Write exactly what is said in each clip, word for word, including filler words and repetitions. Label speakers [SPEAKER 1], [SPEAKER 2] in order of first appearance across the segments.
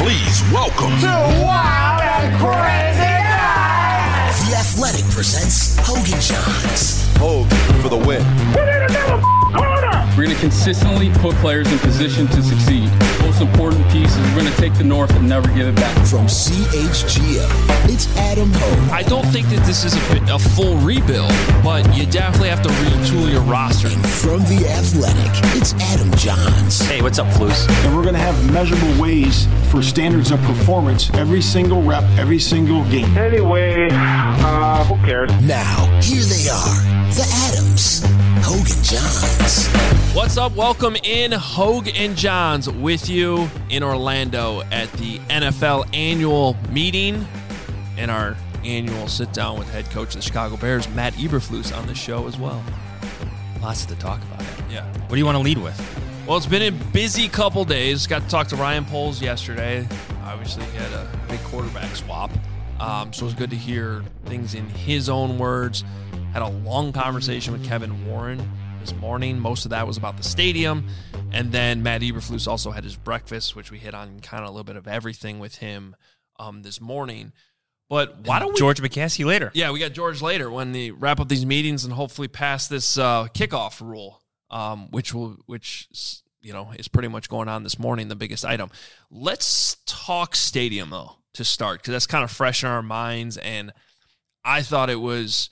[SPEAKER 1] Please welcome
[SPEAKER 2] to Wild and Crazy Guys.
[SPEAKER 3] The Athletic presents Hogan Johns.
[SPEAKER 4] Hogue for the win.
[SPEAKER 2] Put in another corner.
[SPEAKER 5] We're going to consistently put players in position to succeed. Most important piece is we're going to take the North and never give it back.
[SPEAKER 3] From C H G O, it's Adam Hogue.
[SPEAKER 6] I don't think that this is a, a full rebuild, but you definitely have to retool your roster.
[SPEAKER 3] And from The Athletic, it's Adam Johns.
[SPEAKER 7] Hey, what's up, Flus?
[SPEAKER 8] And we're going to have measurable ways for standards of performance every single rep, every single game.
[SPEAKER 2] Anyway, uh, who cares?
[SPEAKER 3] Now, here they are, the Adams, Hogue and Johns.
[SPEAKER 6] What's up? Welcome in, Hogue and Johns, with you in Orlando at the N F L annual meeting and our annual sit-down with head coach of the Chicago Bears, Matt Eberflus, on the show as well.
[SPEAKER 7] Lots to talk about.
[SPEAKER 6] Yeah.
[SPEAKER 7] What do you want to lead with?
[SPEAKER 6] Well, it's been a busy couple days. Got to talk to Ryan Poles yesterday. Obviously, he had a big quarterback swap. Um, so it was good to hear things in his own words. Had a long conversation with Kevin Warren this morning. Most of that was about the stadium. And then Matt Eberflus also had his breakfast, which we hit on kind of a little bit of everything with him um, this morning. But why don't we...
[SPEAKER 7] George McCaskey later.
[SPEAKER 6] Yeah, we got George later when they wrap up these meetings and hopefully pass this uh, kickoff rule, um, which will, which you know, is pretty much going on this morning, the biggest item. Let's talk stadium, though, to start, because that's kind of fresh in our minds. And I thought it was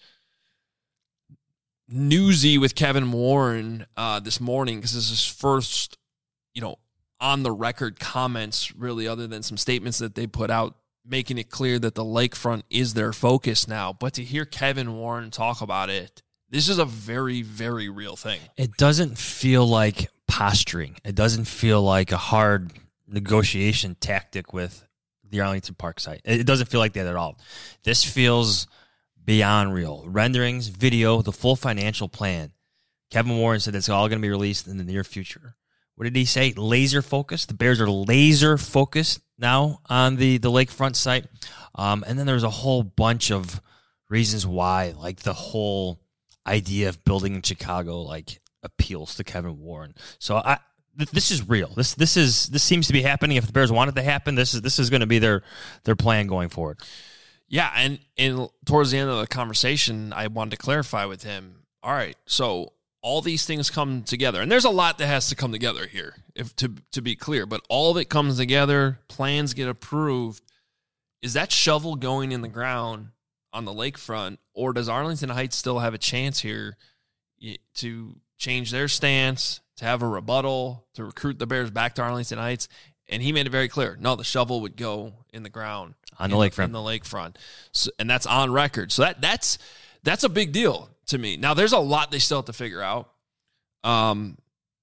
[SPEAKER 6] newsy with Kevin Warren uh, this morning, because this is his first, you know, on the record comments, really, other than some statements that they put out, making it clear that the lakefront is their focus now. But to hear Kevin Warren talk about it, this is a very, very real thing.
[SPEAKER 7] It doesn't feel like posturing. It doesn't feel like a hard negotiation tactic with the Arlington Park site. It doesn't feel like that at all. This feels beyond real. Renderings, video, the full financial plan. Kevin Warren said it's all going to be released in the near future. What did he say? Laser focused. The Bears are laser focused now on the, the lakefront site. Um, and then there's a whole bunch of reasons why, like the whole idea of building in Chicago, like appeals to Kevin Warren. So I, th- this is real. This this is this seems to be happening. If the Bears want it to happen, this is this is going to be their their plan going forward.
[SPEAKER 6] Yeah, and and towards the end of the conversation, I wanted to clarify with him. All right, so all these things come together, and there's a lot that has to come together here, if to to be clear. But all of it comes together, plans get approved. Is that shovel going in the ground on the lakefront, or does Arlington Heights still have a chance here to change their stance, to have a rebuttal, to recruit the Bears back to Arlington Heights? And he made it very clear. No, the shovel would go in the ground
[SPEAKER 7] on the lakefront.
[SPEAKER 6] On the lakefront, so, and that's on record. So that that's that's a big deal to me. Now, there's a lot they still have to figure out. Um,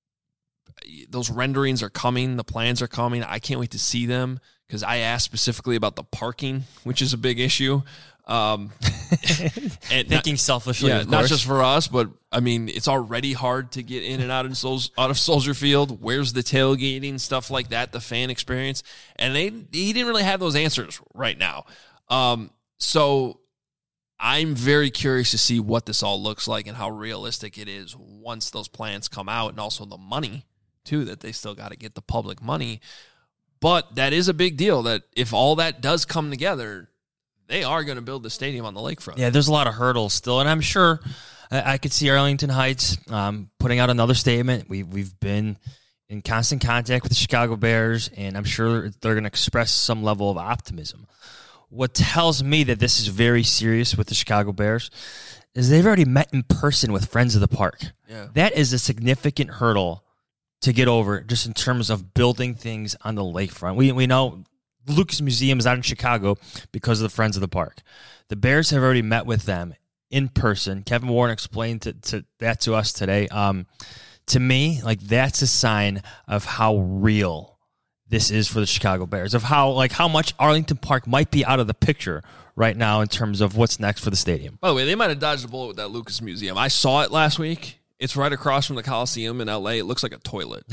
[SPEAKER 6] those renderings are coming. The plans are coming. I can't wait to see them, because I asked specifically about the parking, which is a big issue. Um,
[SPEAKER 7] and Thinking not, selfishly,
[SPEAKER 6] yeah,
[SPEAKER 7] of
[SPEAKER 6] not
[SPEAKER 7] course.
[SPEAKER 6] just for us, but I mean, it's already hard to get in and out of Sol- out of Soldier Field. Where's the tailgating, stuff like that, the fan experience, and they he didn't really have those answers right now. Um, so I'm very curious to see what this all looks like and how realistic it is once those plans come out, and also the money too, that they still got to get the public money. But that is a big deal, that if all that does come together, they are going to build the stadium on the lakefront.
[SPEAKER 7] Yeah, there's a lot of hurdles still, and I'm sure I, I could see Arlington Heights um, putting out another statement. We, we've been in constant contact with the Chicago Bears, and I'm sure they're going to express some level of optimism. What tells me that this is very serious with the Chicago Bears is they've already met in person with Friends of the Park.
[SPEAKER 6] Yeah.
[SPEAKER 7] That is a significant hurdle to get over, just in terms of building things on the lakefront. We we know Lucas Museum is out in Chicago because of the Friends of the Park. The Bears have already met with them in person. Kevin Warren explained to, to that to us today. Um, to me, like, that's a sign of how real this is for the Chicago Bears, of how like how much Arlington Park might be out of the picture right now in terms of what's next for the stadium.
[SPEAKER 6] By the way, they might have dodged a bullet with that Lucas Museum. I saw it last week. It's right across from the Coliseum in L A. It looks like a toilet.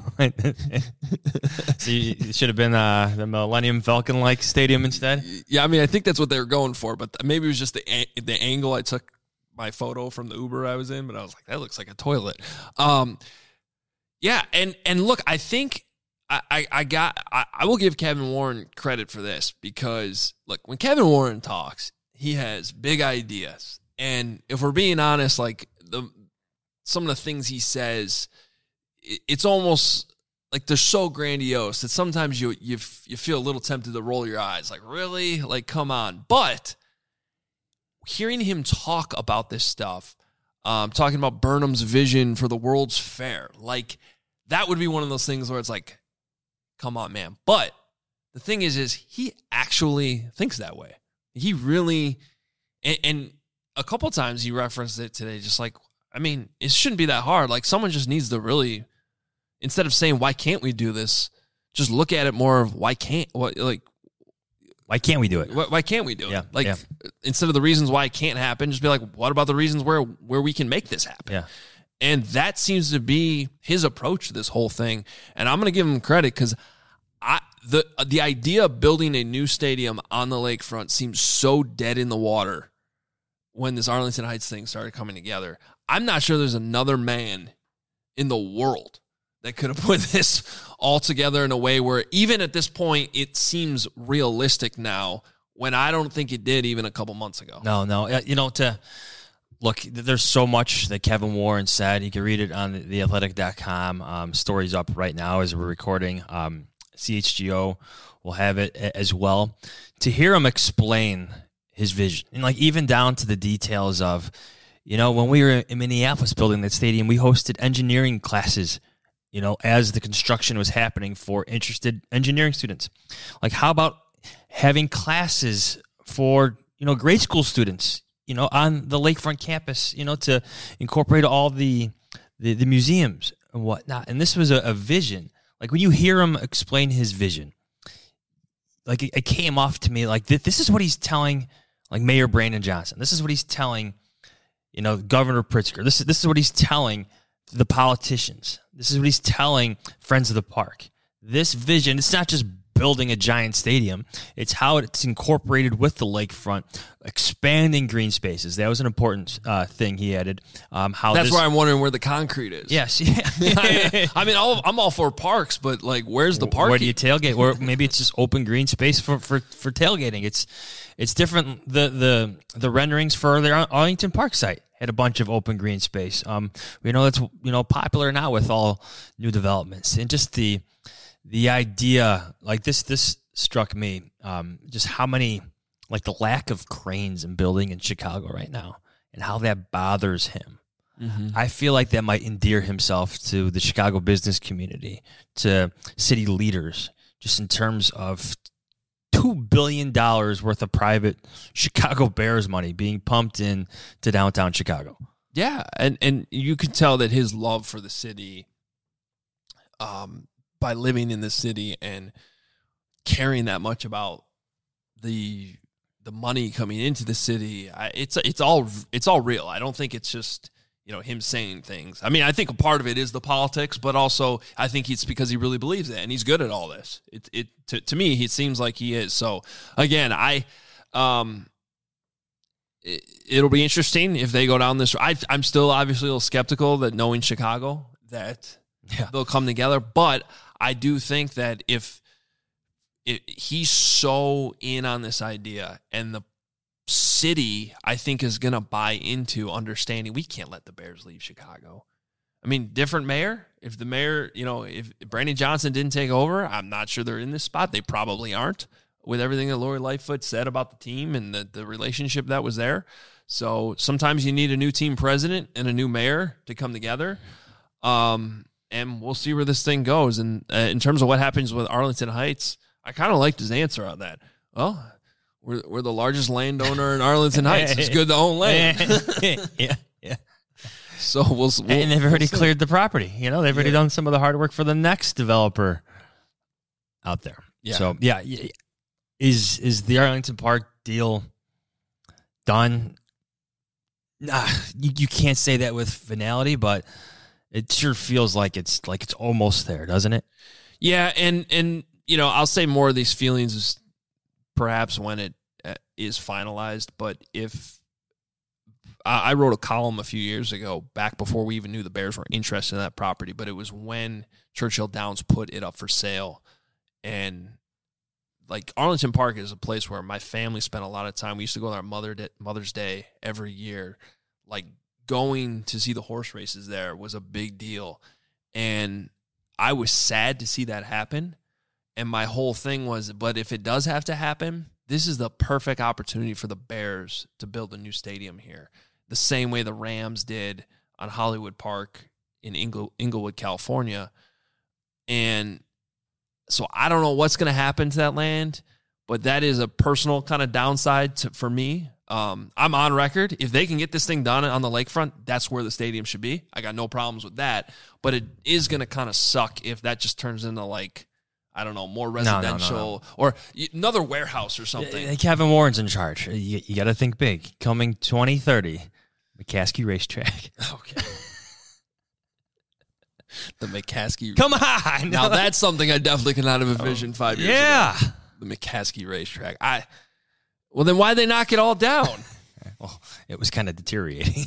[SPEAKER 7] So you, it should have been uh, the Millennium Falcon-like stadium instead?
[SPEAKER 6] Yeah, I mean, I think that's what they were going for, but maybe it was just the the angle I took my photo from the Uber I was in, but I was like, that looks like a toilet. Um, yeah, and and look, I think I, I, I got I, I will give Kevin Warren credit for this because look, when Kevin Warren talks, he has big ideas. And if we're being honest, like the some of the things he says, it, it's almost like they're so grandiose that sometimes you you you feel a little tempted to roll your eyes. Like, really? Like, come on. But hearing him talk about this stuff, um, talking about Burnham's vision for the World's Fair, like that would be one of those things where it's like, come on, man. But the thing is, is he actually thinks that way. He really, and, and a couple times he referenced it today, just like, I mean, it shouldn't be that hard. Like, someone just needs to really, instead of saying, why can't we do this, just look at it more of why can't, what, like,
[SPEAKER 7] Why can't we do it?
[SPEAKER 6] why, why can't we do
[SPEAKER 7] Yeah,
[SPEAKER 6] it? Like,
[SPEAKER 7] yeah.
[SPEAKER 6] instead of the reasons why it can't happen, just be like, what about the reasons where, where we can make this happen?
[SPEAKER 7] Yeah.
[SPEAKER 6] And that seems to be his approach to this whole thing. And I'm going to give him credit because I the the idea of building a new stadium on the lakefront seems so dead in the water when this Arlington Heights thing started coming together. I'm not sure there's another man in the world that could have put this all together in a way where even at this point it seems realistic now when I don't think it did even a couple months ago.
[SPEAKER 7] No, no. Uh, You know, to look, there's so much that Kevin Warren said. You can read it on the athletic dot com. Um, story's up right now as we're recording. Um, C H G O will have it as well. To hear him explain his vision, and like even down to the details of, you know, when we were in Minneapolis building that stadium, we hosted engineering classes, you know, as the construction was happening for interested engineering students. Like, how about having classes for, you know, grade school students, you know, on the lakefront campus, you know, to incorporate all the the, the museums and whatnot. And this was a, a vision. Like, when you hear him explain his vision, like, it, it came off to me like th- this is what he's telling, like, Mayor Brandon Johnson. This is what he's telling, you know, Governor Pritzker. This is this is what he's telling the politicians. This is what he's telling Friends of the Park. This vision, it's not just building a giant stadium. It's how it's incorporated with the lakefront, expanding green spaces. That was an important uh, thing he added. Um, how
[SPEAKER 6] That's
[SPEAKER 7] this,
[SPEAKER 6] why I'm wondering where the concrete is.
[SPEAKER 7] Yes. Yeah.
[SPEAKER 6] I mean, all, I'm all for parks, but like, where's the park?
[SPEAKER 7] Where do you tailgate? Or maybe it's just open green space for, for, for tailgating. It's it's different. The the the renderings for the Arlington Park site had a bunch of open green space. Um, we know that's, you know, popular now with all new developments, and just the the idea, like this this struck me. Um, just how many, like the lack of cranes in building in Chicago right now, and how that bothers him. Mm-hmm. I feel like that might endear himself to the Chicago business community, to city leaders, just in terms of two billion dollars worth of private Chicago Bears money being pumped in to downtown Chicago.
[SPEAKER 6] Yeah, and, and you could tell that his love for the city, um, by living in the city and caring that much about the the money coming into the city, I, it's it's all it's all real. I don't think it's just, you know, him saying things. I mean, I think a part of it is the politics, but also I think it's because he really believes it, and he's good at all this. It it to, to me, it seems like he is. So again, I um, it, it'll be interesting if they go down this. I, I'm still obviously a little skeptical that knowing Chicago that
[SPEAKER 7] Yeah.
[SPEAKER 6] they'll come together, but I do think that if it, he's so in on this idea, and the city, I think, is going to buy into understanding we can't let the Bears leave Chicago. I mean, different mayor. If the mayor, you know, if Brandon Johnson didn't take over, I'm not sure they're in this spot. They probably aren't, with everything that Lori Lightfoot said about the team and the, the relationship that was there. So sometimes you need a new team president and a new mayor to come together. Um, and we'll see where this thing goes. And uh, in terms of what happens with Arlington Heights, I kind of liked his answer on that. Well, we're we're the largest landowner in Arlington Heights. It's good to own land.
[SPEAKER 7] yeah, yeah.
[SPEAKER 6] So we'll, we'll
[SPEAKER 7] And they've already
[SPEAKER 6] we'll see.
[SPEAKER 7] cleared the property. You know, they've already
[SPEAKER 6] Yeah.
[SPEAKER 7] done some of the hard work for the next developer out there.
[SPEAKER 6] Yeah.
[SPEAKER 7] So yeah, y- is is the Arlington Park deal done? Nah, you, you can't say that with finality, but it sure feels like it's like it's almost there, doesn't it?
[SPEAKER 6] Yeah, and and you know, I'll say more of these feelings is perhaps when it uh, is finalized. But if I, I wrote a column a few years ago, back before we even knew the Bears were interested in that property, but it was when Churchill Downs put it up for sale. And like Arlington Park is a place where my family spent a lot of time. We used to go on our Mother Day, Mother's Day every year. Like going to see the horse races there was a big deal. And I was sad to see that happen. And my whole thing was, but if it does have to happen, this is the perfect opportunity for the Bears to build a new stadium here. The same way the Rams did on Hollywood Park in Ingle, Inglewood, California. And so I don't know what's going to happen to that land, but that is a personal kind of downside to, for me. Um, I'm on record. If they can get this thing done on the lakefront, that's where the stadium should be. I got no problems with that. But it is going to kind of suck if that just turns into like, I don't know, more residential
[SPEAKER 7] no, no, no.
[SPEAKER 6] or another warehouse or something.
[SPEAKER 7] Uh, Kevin Warren's in charge. You, you got to think big. Coming twenty thirty, McCaskey Racetrack.
[SPEAKER 6] Okay. The McCaskey.
[SPEAKER 7] Come on.
[SPEAKER 6] Now that's something I definitely could not have envisioned five years
[SPEAKER 7] yeah.
[SPEAKER 6] ago. The McCaskey Racetrack. I. Well, then why'd they knock it all down?
[SPEAKER 7] Well, it was kind of deteriorating.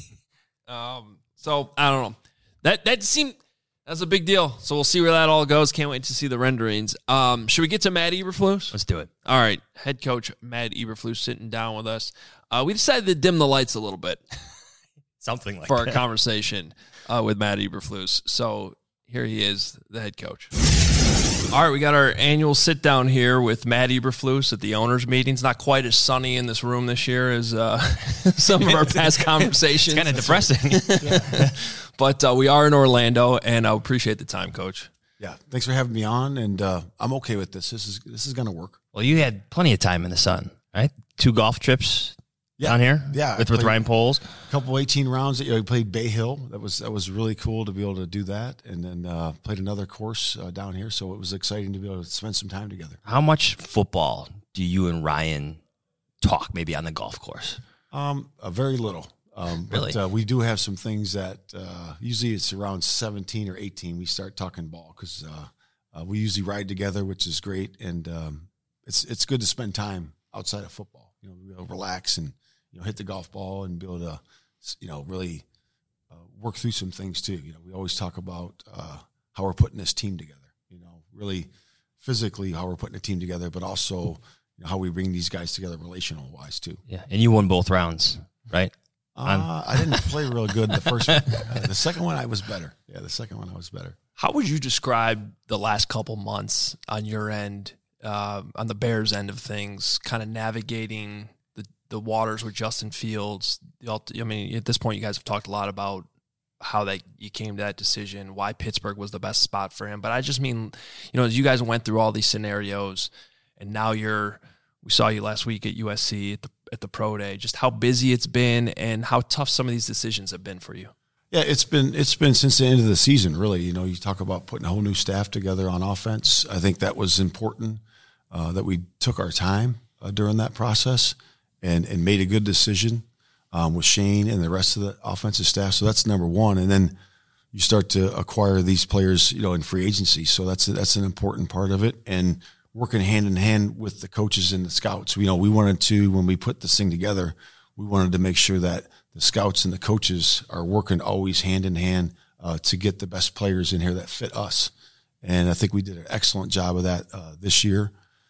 [SPEAKER 6] um. So I don't know. That that seemed that's a big deal. So we'll see where that all goes. Can't wait to see the renderings. Um. Should we get to Matt Eberflus?
[SPEAKER 7] Let's do it.
[SPEAKER 6] All right. Head coach Matt Eberflus sitting down with us. Uh, we decided to dim the lights a little bit.
[SPEAKER 7] Something like
[SPEAKER 6] for
[SPEAKER 7] that.
[SPEAKER 6] our conversation uh, with Matt Eberflus. So here he is, the head coach. All right, we got our annual sit down here with Matt Eberflus at the owners' meetings. Not quite as sunny in this room this year as uh, some of our past conversations.
[SPEAKER 7] It's kind of depressing.
[SPEAKER 6] But uh, we are in Orlando, and I appreciate the time, Coach.
[SPEAKER 8] Yeah, thanks for having me on, and uh, I'm okay with this. This is this is going to work.
[SPEAKER 7] Well, you had plenty of time in the sun, right? Two golf trips
[SPEAKER 8] Yeah.
[SPEAKER 7] down here,
[SPEAKER 8] Yeah,
[SPEAKER 7] with
[SPEAKER 8] I
[SPEAKER 7] with
[SPEAKER 8] played-
[SPEAKER 7] Ryan Poles.
[SPEAKER 8] A couple eighteen rounds. You know, we played Bay Hill. That was that was really cool to be able to do that, and then uh, played another course uh, down here. So it was exciting to be able to spend some time together.
[SPEAKER 7] How much football do you and Ryan talk, maybe on the golf course?
[SPEAKER 8] Um, uh, very little. Um,
[SPEAKER 7] Really?
[SPEAKER 8] But uh, we do have some things that uh, usually it's around seventeen or eighteen. We start talking ball because uh, uh, we usually ride together, which is great, and um, it's it's good to spend time outside of football. You know, be able to relax and you know hit the golf ball and be able to you know really uh, work through some things too. You know, we always talk about uh, how we're putting this team together. You know, really physically how we're putting a team together, but also you know, how we bring these guys together relational wise too.
[SPEAKER 7] Yeah, and you won both rounds, right?
[SPEAKER 8] Uh, I didn't play real good the first one. Uh, the second one, I was better. Yeah, the second one, I was better.
[SPEAKER 6] How would you describe the last couple months on your end, uh, on the Bears end of things, kind of navigating the, the waters with Justin Fields? The ult- I mean, at this point, you guys have talked a lot about how that you came to that decision, why Pittsburgh was the best spot for him. But I just mean, you know, as you guys went through all these scenarios, and now you're, we saw you last week at U S C at the at the Pro Day, just how busy it's been and how tough some of these decisions have been for you.
[SPEAKER 8] Yeah, it's been it's been since the end of the season, really. You know, you talk about putting a whole new staff together on offense. I think that was important, uh, that we took our time uh, during that process and, and made a good decision um, with Shane and the rest of the offensive staff. So that's number one. And then you start to acquire these players, you know, in free agency. So that's that's an important part of it. And working hand in hand with the coaches and the scouts. You know, we wanted to, when we put this thing together, we wanted to make sure that the scouts and the coaches are working always hand in hand uh, to get the best players in here that fit us. And I think we did an excellent job of that uh, this year.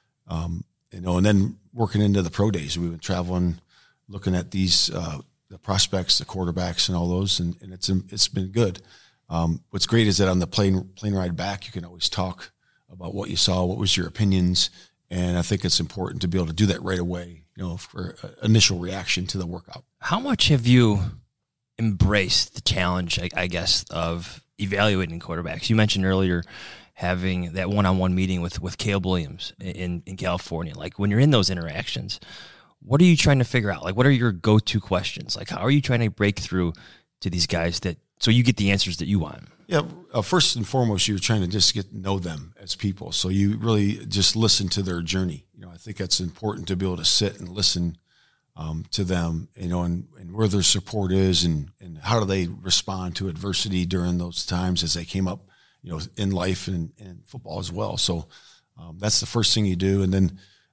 [SPEAKER 8] Um, you know, and then working into the pro days, we've been traveling, looking at these, uh, the prospects, the quarterbacks and all those, and, and it's, it's been good. Um, what's great is that on the plane, plane ride back, you can always talk about what you saw, what was your opinions, and I think it's important to be able to do that right away, you know, for uh, initial reaction to the workout.
[SPEAKER 7] How much have you embraced the challenge, I, I guess, of evaluating quarterbacks? You mentioned earlier having that one-on-one meeting with, with Caleb Williams in, in California. Like, when you're in those interactions, what are you trying to figure out? Like, what are your go-to questions? Like, how are you trying to break through to these guys that so you get the answers that you want?
[SPEAKER 8] Yeah, uh, first and foremost, you're trying to just get to know them as people. So you really just listen to their journey. You know, I think that's important to be able to sit and listen um, to them, you know, and, and where their support is and, and how do they respond to adversity during those times as they came up, you know, in life and in football as well. So um, that's the first thing you do. And then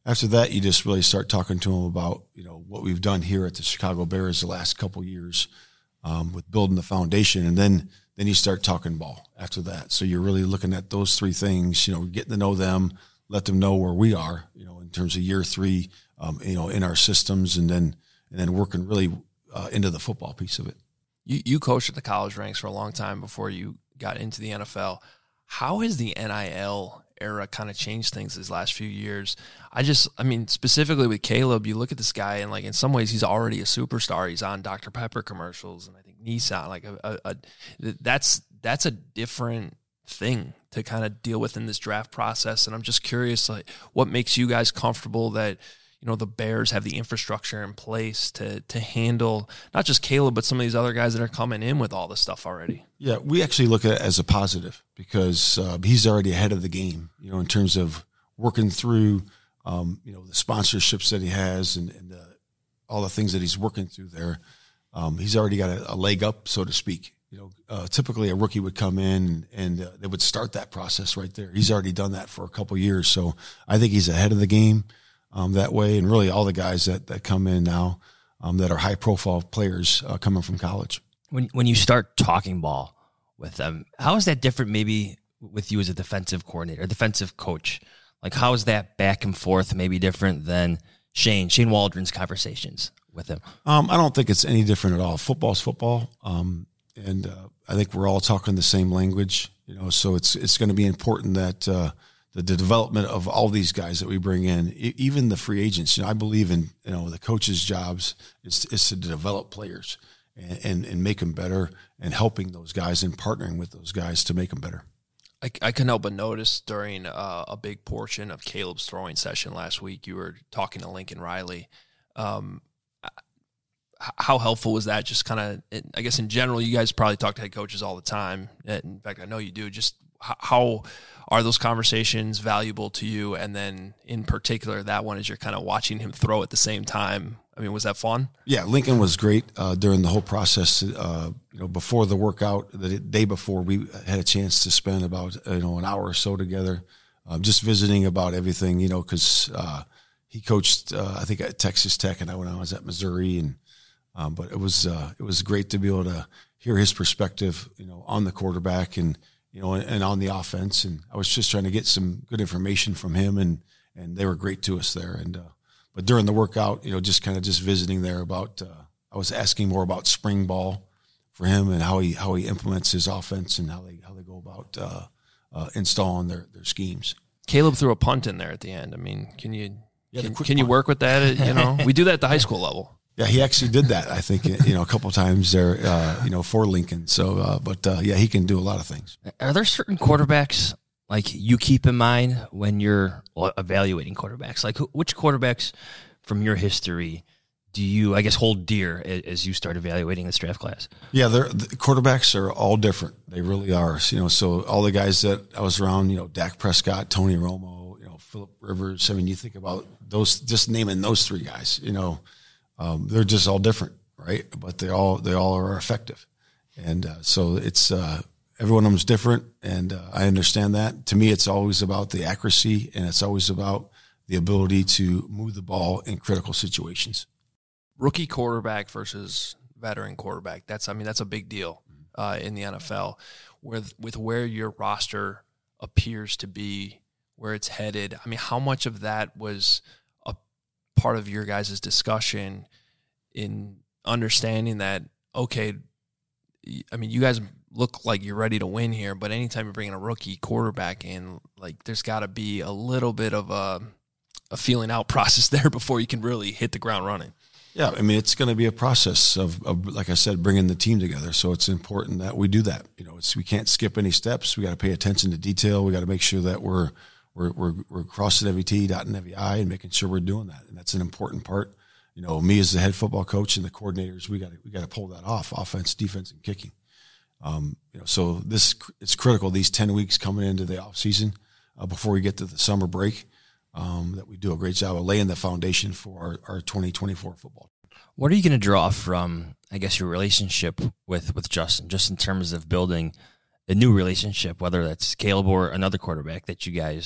[SPEAKER 8] After that, you just really start talking to them about, you know, what we've done here at the Chicago Bears the last couple of years um, with building the foundation. And then, then you start talking ball after that. So you're really looking at those three things, you know, getting to know them, let them know where we are, you know, in terms of year three, um, you know, in our systems, and then, and then working really uh, into the football piece of it.
[SPEAKER 6] You, you coached at the college ranks for a long time before you got into the N F L. How has the N I L era kind of changed things these last few years? I just, I mean, specifically with Caleb, you look at this guy and like in some ways he's already a superstar. He's on Doctor Pepper commercials and I think Nissan, like a, a, a that's, that's a different thing to kind of deal with in this draft process. And I'm just curious, like what makes you guys comfortable that, you know, the Bears have the infrastructure in place to to handle not just Caleb, but some of these other guys that are coming in with all this stuff already?
[SPEAKER 8] Yeah, we actually look at it as a positive because uh, he's already ahead of the game, you know, in terms of working through, um, you know, the sponsorships that he has and, and uh, all the things that he's working through there. Um, he's already got a, a leg up, so to speak. You know, uh, typically a rookie would come in and uh, they would start that process right there. He's already done that for a couple of years. So I think he's ahead of the game um, that way. And really all the guys that, that come in now um, that are high profile players uh, coming from college.
[SPEAKER 7] When when you start talking ball with them, how is that different maybe with you as a defensive coordinator, defensive coach? Like how is that back and forth maybe different than Shane, Shane Waldron's conversations with him? Um,
[SPEAKER 8] I don't think it's any different at all. Football's football. Um, And uh, I think we're all talking the same language, you know. So it's it's going to be important that uh, the, the development of all these guys that we bring in, e- even the free agents. You know, I believe in you know the coaches' jobs is is to develop players and, and and make them better, and helping those guys and partnering with those guys to make them better.
[SPEAKER 6] I, I couldn't help but notice during uh, a big portion of Caleb's throwing session last week, you were talking to Lincoln Riley. Um, How helpful was that? Just kind of, I guess in general, you guys probably talk to head coaches all the time. In fact, I know you do. Just how are those conversations valuable to you? And then in particular, that one as you're kind of watching him throw at the same time. I mean, was that fun?
[SPEAKER 8] Yeah, Lincoln was great uh, during the whole process. Uh, you know, before the workout, the day before, we had a chance to spend about you know an hour or so together, um, just visiting about everything. You know, because uh, he coached, uh, I think at Texas Tech, and I when I was at Missouri, and Um, but it was uh, it was great to be able to hear his perspective, you know, on the quarterback and you know and, and on the offense. And I was just trying to get some good information from him, and, and they were great to us there. And uh, but during the workout, you know, just kind of just visiting there about uh, I was asking more about spring ball for him and how he how he implements his offense and how they how they go about uh, uh, installing their, their schemes.
[SPEAKER 6] Caleb threw a punt in there at the end. I mean, can you
[SPEAKER 8] yeah,
[SPEAKER 6] can, can you work with that? You know, we do that at the high school level.
[SPEAKER 8] Yeah, he actually did that, I think, you know, a couple of times there, uh, you know, for Lincoln. So, uh, but, uh, yeah, he can do a lot of things.
[SPEAKER 7] Are there certain quarterbacks, like, you keep in mind when you're evaluating quarterbacks? Like, which quarterbacks from your history do you, I guess, hold dear as you start evaluating this draft class?
[SPEAKER 8] Yeah, they're, the quarterbacks are all different. They really are. You know, so all the guys that I was around, you know, Dak Prescott, Tony Romo, you know, Phillip Rivers. I mean, you think about those, just naming those three guys, you know, Um, they're just all different, right? But they all they all are effective, and uh, so it's uh, every one of them is different, and uh, I understand that. To me, it's always about the accuracy, and it's always about the ability to move the ball in critical situations.
[SPEAKER 6] Rookie quarterback versus veteran quarterback. That's I mean that's a big deal uh, in the N F L, with with where your roster appears to be, where it's headed. I mean, how much of that was part of your guys' discussion in understanding that, okay, I mean, you guys look like you're ready to win here, but anytime you're bringing a rookie quarterback in, like there's got to be a little bit of a, a feeling out process there before you can really hit the ground running.
[SPEAKER 8] Yeah, I mean, it's going to be a process of, of, like I said, bringing the team together. So it's important that we do that. You know, it's we can't skip any steps. We got to pay attention to detail. We got to make sure that we're We're, we're, we're crossing every T, dotting every I, and making sure we're doing that. And that's an important part. You know, me as the head football coach and the coordinators, we got to, we got to pull that off, offense, defense, and kicking. Um, you know, so this, it's critical, these ten weeks coming into the off season uh, before we get to the summer break, um, that we do a great job of laying the foundation for our, our twenty twenty-four football.
[SPEAKER 7] What are you going to draw from, I guess, your relationship with, with Justin, just in terms of building a new relationship, whether that's Caleb or another quarterback that you guys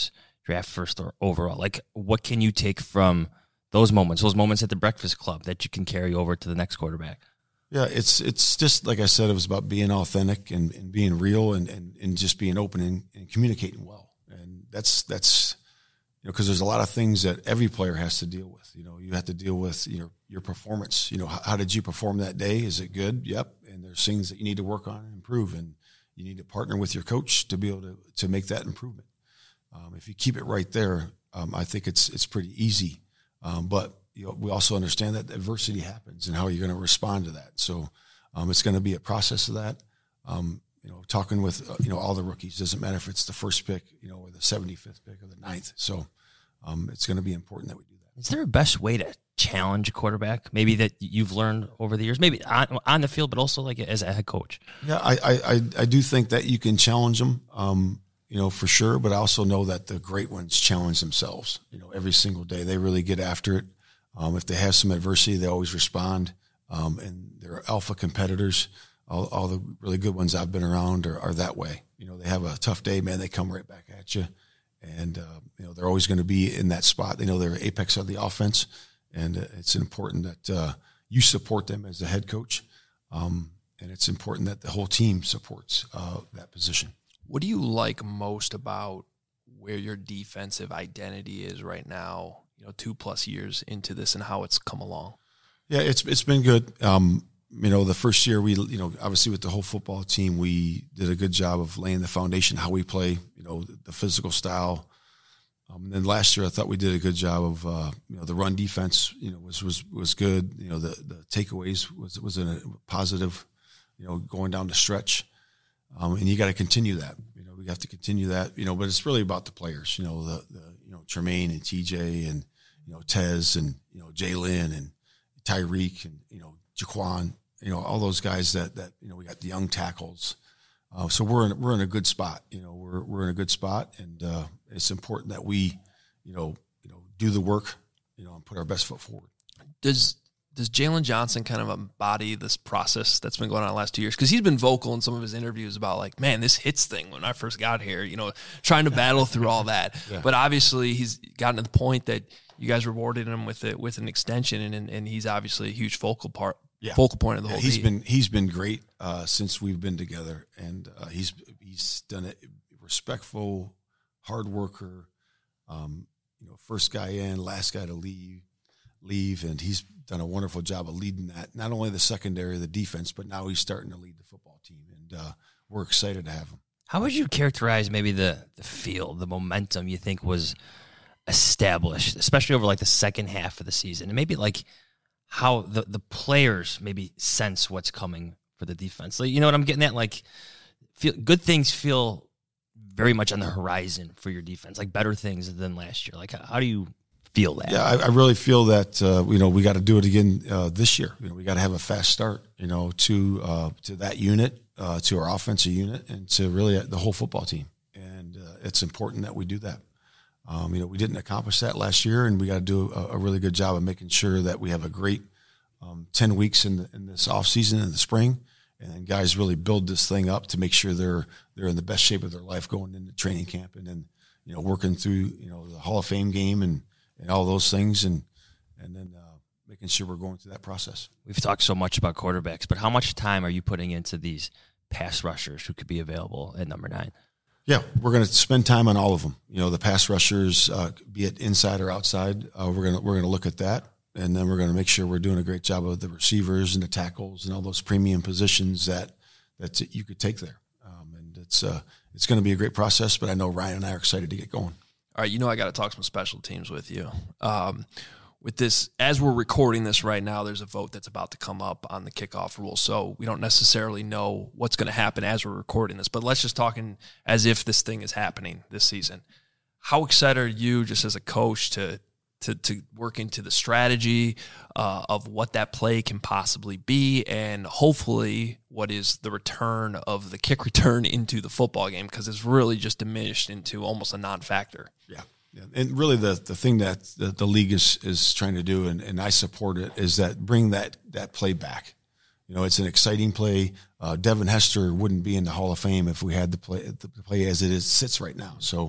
[SPEAKER 7] draft first or overall. Like, what can you take from those moments, those moments at the Breakfast Club that you can carry over to the next quarterback?
[SPEAKER 8] Yeah, it's it's just like I said, it was about being authentic and, and being real and, and, and just being open and, and communicating well. And that's that's you know, because there's a lot of things that every player has to deal with. You know, you have to deal with your your performance. You know, how, how did you perform that day? Is it good? Yep. And there's things that you need to work on and improve, and you need to partner with your coach to be able to to make that improvement. Um, if you keep it right there, um, I think it's it's pretty easy. Um, but you know, we also understand that adversity happens and how you're going to respond to that. So um, it's going to be a process of that. Um, you know, talking with uh, you know all the rookies, doesn't matter if it's the first pick, you know, or the seventy-fifth pick or the ninth. So um, it's going to be important that we do that.
[SPEAKER 7] Is there a best way to challenge a quarterback? Maybe that you've learned over the years, maybe on, on the field, but also like as a head coach.
[SPEAKER 8] Yeah, I I, I, I do think that you can challenge them. Um, You know, for sure, but I also know that the great ones challenge themselves, you know, every single day. They really get after it. Um, if they have some adversity, they always respond. Um, and they're alpha competitors. All, all the really good ones I've been around are, are that way. You know, they have a tough day, man, they come right back at you. And, uh, you know, they're always going to be in that spot. They know they're apex of the offense. And uh, it's important that uh, you support them as the head coach. Um, and it's important that the whole team supports uh, that position.
[SPEAKER 6] What do you like most about where your defensive identity is right now, you know, two plus years into this and how it's come along?
[SPEAKER 8] Yeah, it's it's been good. Um, you know, the first year we, you know, obviously with the whole football team, we did a good job of laying the foundation, how we play, you know, the, the physical style. Um, and then last year I thought we did a good job of, uh, you know, the run defense, you know, was was was good. You know, the, the takeaways was, was in a positive, you know, going down the stretch. Um, and you got to continue that. You know, we have to continue that. You know, but it's really about the players. You know, the, the you know Tremaine and T J and you know Tez and you know Jalen and Tyreek and you know Jaquan. You know, all those guys that that you know we got the young tackles. Uh, so we're in we're in a good spot. You know, we're we're in a good spot, and uh, it's important that we you know you know do the work. You know, and put our best foot forward.
[SPEAKER 6] Does Does Jalen Johnson kind of embody this process that's been going on the last two years? Because he's been vocal in some of his interviews about, like, man, this hits thing when I first got here, you know, trying to battle through all that. Yeah. But obviously he's gotten to the point that you guys rewarded him with it with an extension, and and he's obviously a huge focal part, yeah. focal point of the
[SPEAKER 8] yeah,
[SPEAKER 6] whole
[SPEAKER 8] he's
[SPEAKER 6] team.
[SPEAKER 8] been He's been great uh, since we've been together, and uh, he's he's done it respectful, hard worker, um, you know, first guy in, last guy to leave. leave, and he's done a wonderful job of leading that, not only the secondary, the defense, but now he's starting to lead the football team, and uh, we're excited to have him.
[SPEAKER 7] How would you characterize maybe the, the feel, the momentum you think was established, especially over like the second half of the season, and maybe like how the, the players maybe sense what's coming for the defense? Like, you know what I'm getting at? Like, feel, good things feel very much on the horizon for your defense, like better things than last year. Like, how, how do you feel that?
[SPEAKER 8] Yeah, I, I really feel that uh, you know we got to do it again uh, this year. You know, we got to have a fast start. You know, to uh, to that unit, uh, to our offensive unit, and to really the whole football team. And uh, it's important that we do that. Um, you know, we didn't accomplish that last year, and we got to do a, a really good job of making sure that we have a great um, ten weeks in the, in this off season in the spring, and guys really build this thing up to make sure they're they're in the best shape of their life going into training camp, and then you know working through you know the Hall of Fame game and. and all those things, and and then uh, making sure we're going through that process.
[SPEAKER 7] We've talked so much about quarterbacks, but how much time are you putting into these pass rushers who could be available at number nine?
[SPEAKER 8] Yeah, we're going to spend time on all of them. You know, the pass rushers, uh, be it inside or outside, uh, we're going to we're going to look at that, and then we're going to make sure we're doing a great job of the receivers and the tackles and all those premium positions that that you could take there. Um, and it's uh, it's going to be a great process, but I know Ryan and I are excited to get going.
[SPEAKER 6] All right, you know I got to talk some special teams with you. Um, with this, as we're recording this right now, there's a vote that's about to come up on the kickoff rule, so we don't necessarily know what's going to happen as we're recording this, but let's just talk in, as if this thing is happening this season. How excited are you just as a coach to to, to work into the strategy uh, of what that play can possibly be, and hopefully what is the return of the kick return into the football game, because it's really just diminished into almost a non-factor.
[SPEAKER 8] Yeah. Yeah. And really the, the thing that the, the league is, is trying to do, and, and I support it, is that bring that, that play back. You know, it's an exciting play. Uh, Devin Hester wouldn't be in the Hall of Fame if we had the play, the play as it is sits right now. So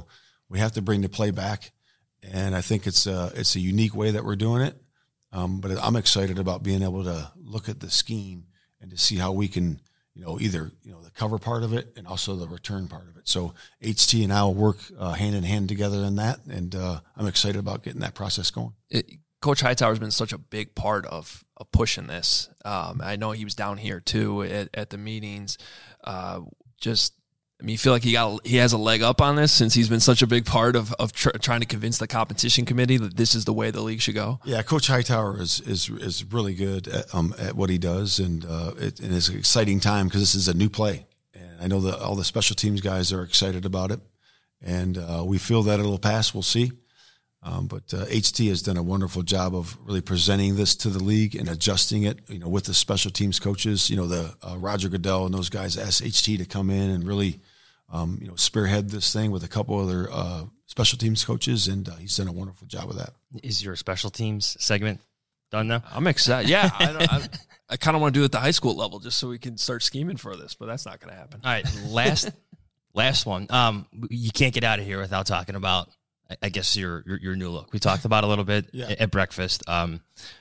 [SPEAKER 8] we have to bring the play back. And I think it's a, it's a unique way that we're doing it. Um, but I'm excited about being able to look at the scheme and to see how we can, you know, either, you know, the cover part of it and also the return part of it. So H T and I will work uh, hand in hand together in that. And uh, I'm excited about getting that process going.
[SPEAKER 6] It, Coach Hightower has been such a big part of, of pushing this. Um, I know he was down here too at, at the meetings. Uh, just, I mean, you feel like he got he has a leg up on this since he's been such a big part of of tr- trying to convince the competition committee that this is the way the league should go.
[SPEAKER 8] Yeah, Coach Hightower is is is really good at, um, at what he does, and uh, it, and it's an exciting time because this is a new play, and I know that all the special teams guys are excited about it, and uh, we feel that it'll pass. We'll see, um, but uh, H T has done a wonderful job of really presenting this to the league and adjusting it. You know, with the special teams coaches, you know, the uh, Roger Goodell and those guys asked H T to come in and really. Um, you know, spearhead this thing with a couple other uh, special teams coaches, and uh, he's done a wonderful job with that.
[SPEAKER 7] Is your special teams segment done now?
[SPEAKER 6] I'm excited. Yeah, I, don't, I, I kind of want to do it at the high school level just so we can start scheming for this, but that's not going to happen.
[SPEAKER 7] All right, last last one. Um, you can't get out of here without talking about, I guess, your your, your new look. We talked about it a little bit yeah. at, at breakfast. Um,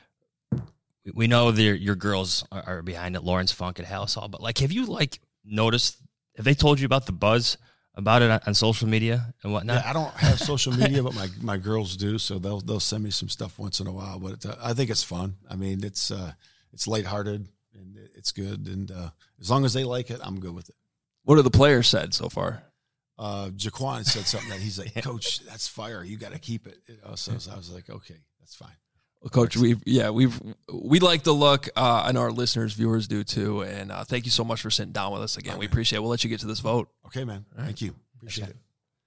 [SPEAKER 7] we, we know that your girls are, are behind it, Lawrence Funk and Hallis Hall, but like, have you like noticed? Have they told you about the buzz about it on, on social media and whatnot?
[SPEAKER 8] Yeah, I don't have social media, but my, my girls do, so they'll they'll send me some stuff once in a while. But it, uh, I think it's fun. I mean, it's uh, it's lighthearted and it's good, and uh, as long as they like it, I'm good with it.
[SPEAKER 6] What have the players said so far?
[SPEAKER 8] Uh, Jaquan said something that he's like, Coach, that's fire. You got to keep it. You know, so, so I was like, okay, that's fine.
[SPEAKER 6] Well, Coach, we've yeah we've we like the look. Uh, I know our listeners, viewers do too. And uh, thank you so much for sitting down with us again. Right, we appreciate it. We'll let you get to this vote.
[SPEAKER 8] Okay, man. Right. Thank you. Appreciate
[SPEAKER 7] okay.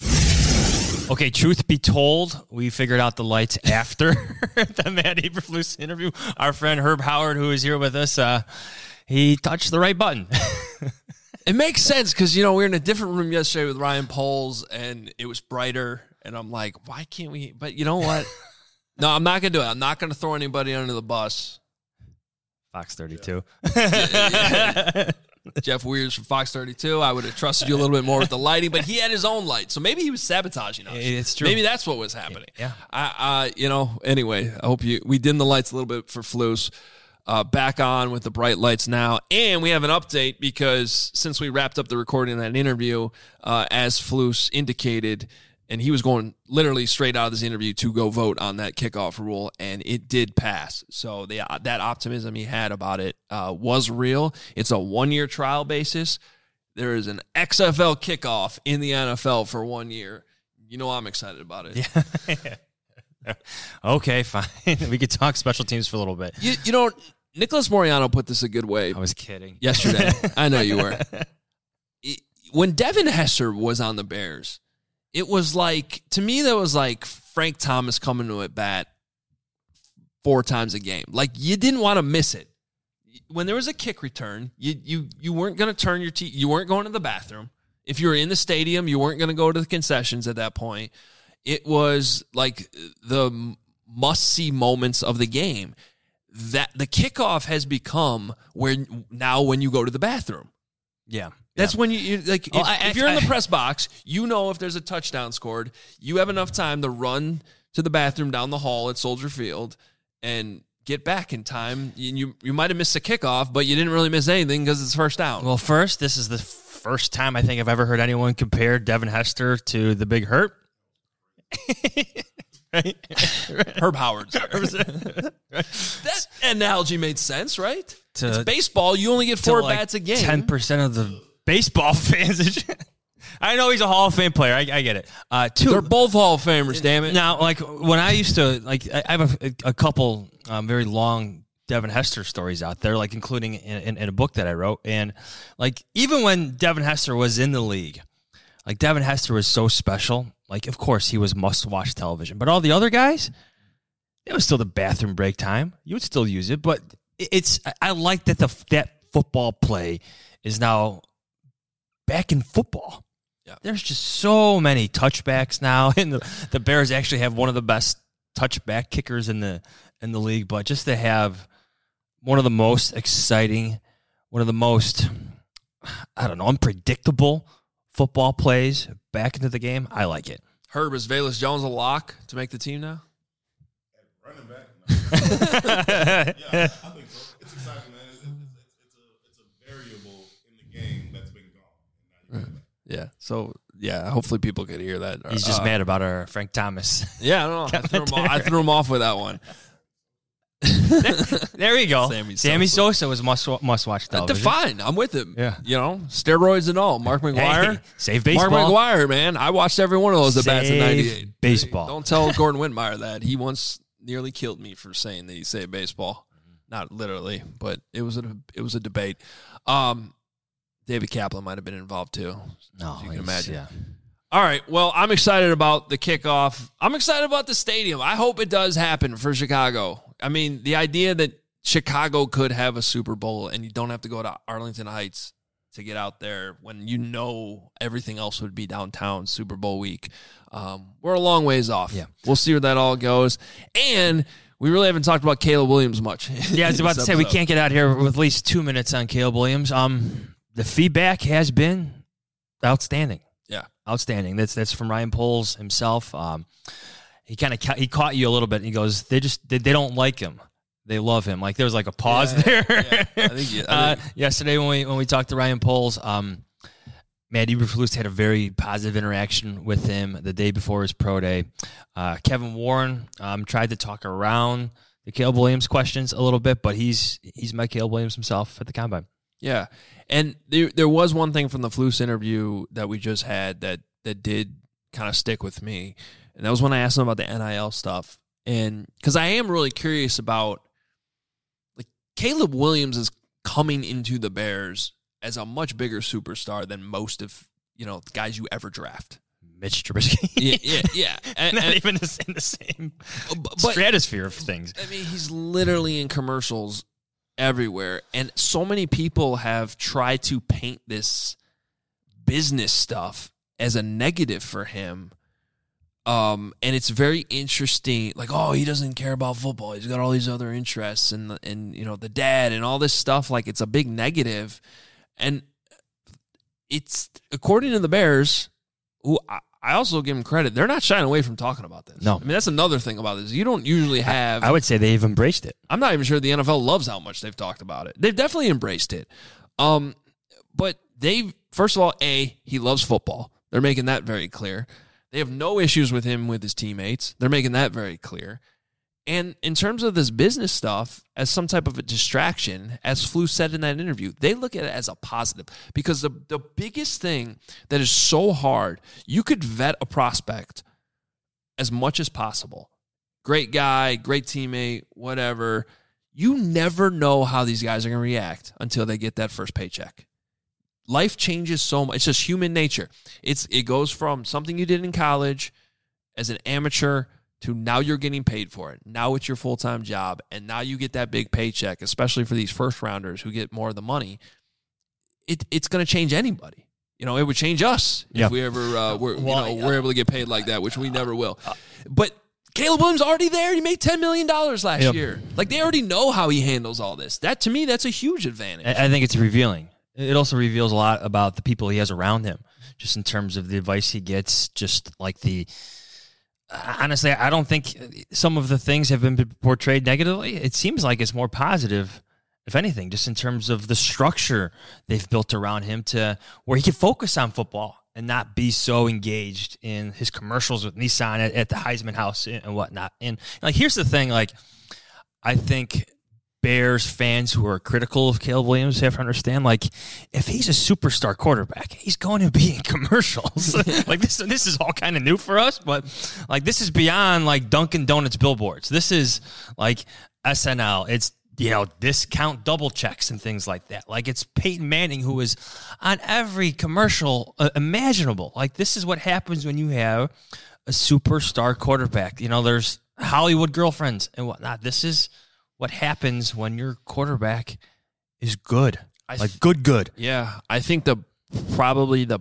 [SPEAKER 8] it.
[SPEAKER 7] Okay, truth be told, we figured out the lights after the Matt Eberflus interview. Our friend Herb Howard, who is here with us, uh, he touched the right button.
[SPEAKER 6] It makes sense because, you know, we were in a different room yesterday with Ryan Poles, and it was brighter. And I'm like, why can't we? But you know what? No, I'm not going to do it. I'm not going to throw anybody under the bus.
[SPEAKER 7] Fox thirty-two.
[SPEAKER 6] Yeah. Yeah, yeah. Jeff Weirs from Fox thirty-two. I would have trusted you a little bit more with the lighting, but he had his own light. So maybe he was sabotaging us.
[SPEAKER 7] It's true.
[SPEAKER 6] Maybe that's what was happening.
[SPEAKER 7] Yeah.
[SPEAKER 6] I, uh, you know, anyway, I hope you, we dimmed the lights a little bit for Flus. Uh, back on with the bright lights now. And we have an update because since we wrapped up the recording of that interview, uh, as Flus indicated, and he was going literally straight out of this interview to go vote on that kickoff rule, and it did pass. So the, uh, that optimism he had about it uh, was real. It's a one-year trial basis. There is an X F L kickoff in the N F L for one year. You know I'm excited about it.
[SPEAKER 7] Yeah. Okay, fine. We could talk special teams for a little bit.
[SPEAKER 6] You, you know, Nicholas Moriano put this a good way.
[SPEAKER 7] I was kidding.
[SPEAKER 6] Yesterday. I know you were. It, when Devin Hester was on the Bears, it was like, to me, that was like Frank Thomas coming to at bat four times a game. Like, you didn't want to miss it. When there was a kick return, you you you weren't going to turn your teeth. You weren't going to the bathroom. If you were in the stadium, you weren't going to go to the concessions at that point. It was like the must-see moments of the game. That the kickoff has become where now when you go to the bathroom.
[SPEAKER 7] Yeah.
[SPEAKER 6] That's
[SPEAKER 7] yeah.
[SPEAKER 6] when you, you like,
[SPEAKER 7] well,
[SPEAKER 6] if,
[SPEAKER 7] I,
[SPEAKER 6] if you're
[SPEAKER 7] I,
[SPEAKER 6] in the
[SPEAKER 7] I,
[SPEAKER 6] press box, you know if there's a touchdown scored, you have enough time to run to the bathroom down the hall at Soldier Field and get back in time. You you, you might have missed a kickoff, but you didn't really miss anything because it's first down.
[SPEAKER 7] Well, first, this is the first time I think I've ever heard anyone compare Devin Hester to the Big Hurt.
[SPEAKER 6] Right? Herb Howard. That analogy made sense, right?
[SPEAKER 7] To,
[SPEAKER 6] it's baseball. You only get four
[SPEAKER 7] like
[SPEAKER 6] bats a game.
[SPEAKER 7] ten percent of the baseball fans. I know he's a Hall of Fame player. I, I get it. Uh, two,
[SPEAKER 6] They're both Hall of Famers, damn it.
[SPEAKER 7] Now, like, when I used to, like, I have a, a couple um, very long Devin Hester stories out there, like, including in, in, in a book that I wrote. And, like, even when Devin Hester was in the league, like, Devin Hester was so special. Like, of course, he was must-watch television. But all the other guys, it was still the bathroom break time. You would still use it. But it's I like that the that football play is now back in football.
[SPEAKER 6] Yeah.
[SPEAKER 7] There's just so many touchbacks now. And the, the Bears actually have one of the best touchback kickers in the in the league. But just to have one of the most exciting, one of the most, I don't know, unpredictable football plays back into the game, I like it.
[SPEAKER 6] Herb, is Velus Jones a lock to make the team now?
[SPEAKER 1] Running back? No. Yeah, I think so. It's exciting, man. It's, it's, it's, a, it's a variable in the game that's been gone.
[SPEAKER 6] Yeah. So, yeah, hopefully people could hear that.
[SPEAKER 7] He's just
[SPEAKER 6] uh,
[SPEAKER 7] mad about our Frank Thomas.
[SPEAKER 6] Yeah, I don't know. I threw, him off, I threw him off with that one.
[SPEAKER 7] There you go.
[SPEAKER 6] Sammy
[SPEAKER 7] Sammy
[SPEAKER 6] Sosa.
[SPEAKER 7] Sosa was must must watch television.
[SPEAKER 6] Fine. I'm with him.
[SPEAKER 7] Yeah.
[SPEAKER 6] You know, steroids and all. Mark McGuire.
[SPEAKER 7] Hey, save baseball.
[SPEAKER 6] Mark McGuire, man. I watched every one of those at bats in
[SPEAKER 7] Save
[SPEAKER 6] ninety-eight.
[SPEAKER 7] baseball.
[SPEAKER 6] Don't tell Gordon Whitmire that. He once nearly killed me for saying that he saved baseball. Not literally, but it was a it was a debate. Um, David Kaplan might have been involved too.
[SPEAKER 7] No,
[SPEAKER 6] if you can
[SPEAKER 7] he's-
[SPEAKER 6] imagine.
[SPEAKER 7] yeah.
[SPEAKER 6] All right. Well, I'm excited about the kickoff. I'm excited about the stadium. I hope it does happen for Chicago. I mean, the idea that Chicago could have a Super Bowl and you don't have to go to Arlington Heights to get out there when you know everything else would be downtown Super Bowl week. Um, we're a long ways off.
[SPEAKER 7] Yeah.
[SPEAKER 6] We'll see where that all goes. And we really haven't talked about Caleb Williams much.
[SPEAKER 7] Yeah, I was about to say we can't get out here with at least two minutes on Caleb Williams. Um, the feedback has been outstanding.
[SPEAKER 6] Yeah.
[SPEAKER 7] Outstanding. That's that's from Ryan Poles himself. Um, he kind of ca- he caught you a little bit. He goes, they just they, they don't like him. They love him. Like there was like a pause
[SPEAKER 6] Yeah,
[SPEAKER 7] there.
[SPEAKER 6] yeah. I think you- I
[SPEAKER 7] uh,
[SPEAKER 6] think-
[SPEAKER 7] yesterday when we when we talked to Ryan Poles, um, Matt Eberflus had a very positive interaction with him the day before his pro day. Uh, Kevin Warren um, tried to talk around the Caleb Williams questions a little bit, but he's he's met Caleb Williams himself at the combine.
[SPEAKER 6] Yeah. And there there was one thing from the Flus interview that we just had that that did kind of stick with me. And that was when I asked him about the N I L stuff. And because I am really curious about, like, Caleb Williams is coming into the Bears as a much bigger superstar than most of, you know, the guys you ever draft.
[SPEAKER 7] Mitch Trubisky.
[SPEAKER 6] Yeah, yeah, yeah. And,
[SPEAKER 7] Not
[SPEAKER 6] and-
[SPEAKER 7] even in the same
[SPEAKER 6] but-
[SPEAKER 7] stratosphere of things.
[SPEAKER 6] I mean, he's literally in commercials everywhere. And so many people have tried to paint this business stuff as a negative for him. Um, and it's very interesting. Like, oh, he doesn't care about football. He's got all these other interests and, and you know, the dad and all this stuff. Like, it's a big negative. And it's, according to the Bears, who I, I also give them credit, they're not shying away from talking about this.
[SPEAKER 7] No.
[SPEAKER 6] I mean, that's another thing about this. You don't usually have...
[SPEAKER 7] I would say they've embraced it.
[SPEAKER 6] I'm not even sure the N F L loves how much they've talked about it. They've definitely embraced it. Um, but they, first of all, A, he loves football. They're making that very clear. They have no issues with him with his teammates. They're making that very clear. And in terms of this business stuff, as some type of a distraction, as Flu said in that interview, they look at it as a positive because the, the biggest thing that is so hard, you could vet a prospect as much as possible. Great guy, great teammate, whatever. You never know how these guys are going to react until they get that first paycheck. Life changes so much. It's just human nature. It's It goes from something you did in college as an amateur to now you're getting paid for it. Now it's your full-time job, and now you get that big paycheck, especially for these first-rounders who get more of the money. It, it's going to change anybody. You know, it would change us
[SPEAKER 7] Yeah.
[SPEAKER 6] if we ever uh, were,
[SPEAKER 7] Well,
[SPEAKER 6] you know, we're able to get paid like that, which we never will. But Caleb Williams already there. He made ten million dollars last
[SPEAKER 7] Yep.
[SPEAKER 6] year. Like, they already know how he handles all this. That, to me, that's a huge advantage.
[SPEAKER 7] I I think it's revealing. It also reveals a lot about the people he has around him, just in terms of the advice he gets, just like the... Honestly, I don't think some of the things have been portrayed negatively. It seems like it's more positive, if anything, just in terms of the structure they've built around him to where he can focus on football and not be so engaged in his commercials with Nissan at, at the Heisman House and whatnot. And like, here's the thing, like, I think Bears fans who are critical of Caleb Williams have to understand, like, if he's a superstar quarterback, he's going to be in commercials. Like, this this is all kind of new for us, but, like, this is beyond, like, Dunkin' Donuts billboards. This is, like, S N L. It's, you know, discount double checks and things like that. Like, it's Peyton Manning who is on every commercial uh, imaginable. Like, this is what happens when you have a superstar quarterback. You know, there's Hollywood girlfriends and whatnot. This is what happens when your quarterback is good.
[SPEAKER 6] I
[SPEAKER 7] Like, good, good.
[SPEAKER 6] Yeah, I think the probably the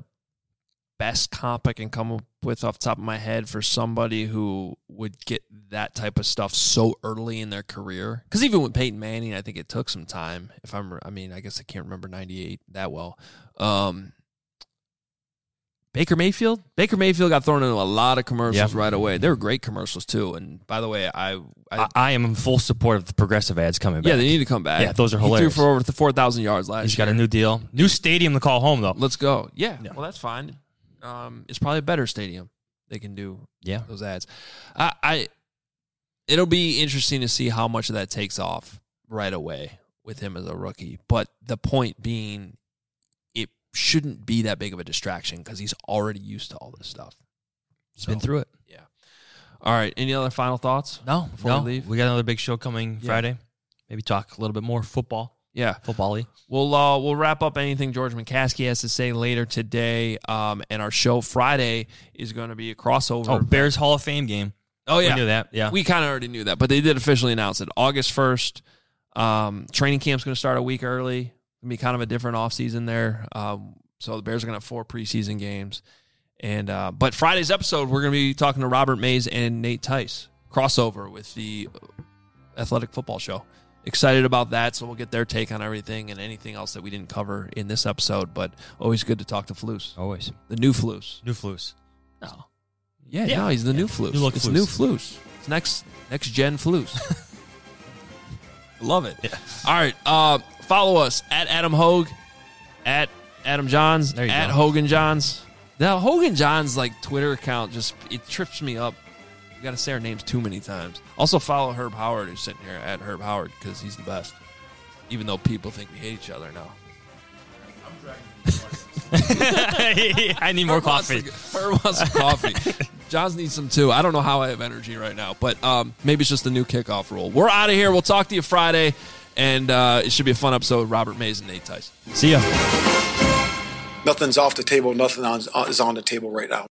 [SPEAKER 6] best comp I can come up with off the top of my head for somebody who would get that type of stuff so early in their career. Because even with Peyton Manning, I think it took some time. If I'm, I mean, I guess I can't remember ninety-eight that well. Um, Baker Mayfield? Baker Mayfield got thrown into a lot of commercials
[SPEAKER 7] Yeah.
[SPEAKER 6] right away. They were great commercials, too. And by the way, I... I,
[SPEAKER 7] I, I am in full support of the progressive ads coming back.
[SPEAKER 6] yeah, they need to come back.
[SPEAKER 7] Yeah, those are
[SPEAKER 6] He
[SPEAKER 7] hilarious.
[SPEAKER 6] threw for over four thousand yards last
[SPEAKER 7] He's
[SPEAKER 6] year.
[SPEAKER 7] got a new deal. New stadium to call home, though.
[SPEAKER 6] Let's go. Yeah, well, that's fine. Um, it's probably a better stadium. They can do
[SPEAKER 7] Yeah.
[SPEAKER 6] those ads. I, I It'll be interesting to see how much of that takes off right away with him as a rookie. But the point being, it shouldn't be that big of a distraction because he's already used to all this stuff.
[SPEAKER 7] He's been through it.
[SPEAKER 6] Yeah. All right. Any other final thoughts?
[SPEAKER 7] No,
[SPEAKER 6] Before
[SPEAKER 7] no.
[SPEAKER 6] we leave?
[SPEAKER 7] We got another big show coming
[SPEAKER 6] Yeah.
[SPEAKER 7] Friday. Maybe talk a little bit more football.
[SPEAKER 6] Yeah.
[SPEAKER 7] Football-y.
[SPEAKER 6] We'll uh, we'll wrap up anything George McCaskey has to say later today. Um, and our show Friday is going to be a crossover.
[SPEAKER 7] Oh, Bears Hall of Fame game.
[SPEAKER 6] Oh, yeah.
[SPEAKER 7] We knew that. Yeah.
[SPEAKER 6] We kind of already knew that, but they did officially announce it. August first. Um, training camp's going to start a week early. It's going to be kind of a different offseason there. Um, so the Bears are going to have four preseason games. And uh, But Friday's episode, we're going to be talking to Robert Mays and Nate Tice. Crossover with the Athletic Football Show. Excited about that, so we'll get their take on everything and anything else that we didn't cover in this episode. But always good to talk to Flus.
[SPEAKER 7] Always.
[SPEAKER 6] The new Flus.
[SPEAKER 7] New Flus. No.
[SPEAKER 6] Yeah,
[SPEAKER 7] Yeah.
[SPEAKER 6] no, he's the new Flus.
[SPEAKER 7] New look
[SPEAKER 6] it's
[SPEAKER 7] Flus.
[SPEAKER 6] new Flus. It's next next gen Flus. Love it. Yeah. All right. Uh, follow us at Adam Hogue, at Adam Johns,
[SPEAKER 7] There you
[SPEAKER 6] at
[SPEAKER 7] go.
[SPEAKER 6] Hogan Johns. The Hogan Johns like Twitter account just it trips me up. You got to say our names too many times. Also follow Herb Howard, who's sitting here at Herb Howard because he's the best. Even though people think we hate each other now.
[SPEAKER 7] I need more
[SPEAKER 6] Herb wants
[SPEAKER 7] coffee.
[SPEAKER 6] to- Herb wants some coffee. Johns needs some too. I don't know how I have energy right now, but um, maybe it's just the new kickoff rule. We're out of here. We'll talk to you Friday, and uh, it should be a fun episode with Robert Mays and Nate Tice.
[SPEAKER 7] See ya.
[SPEAKER 4] Nothing's off the table. Nothing on, is on the table right now.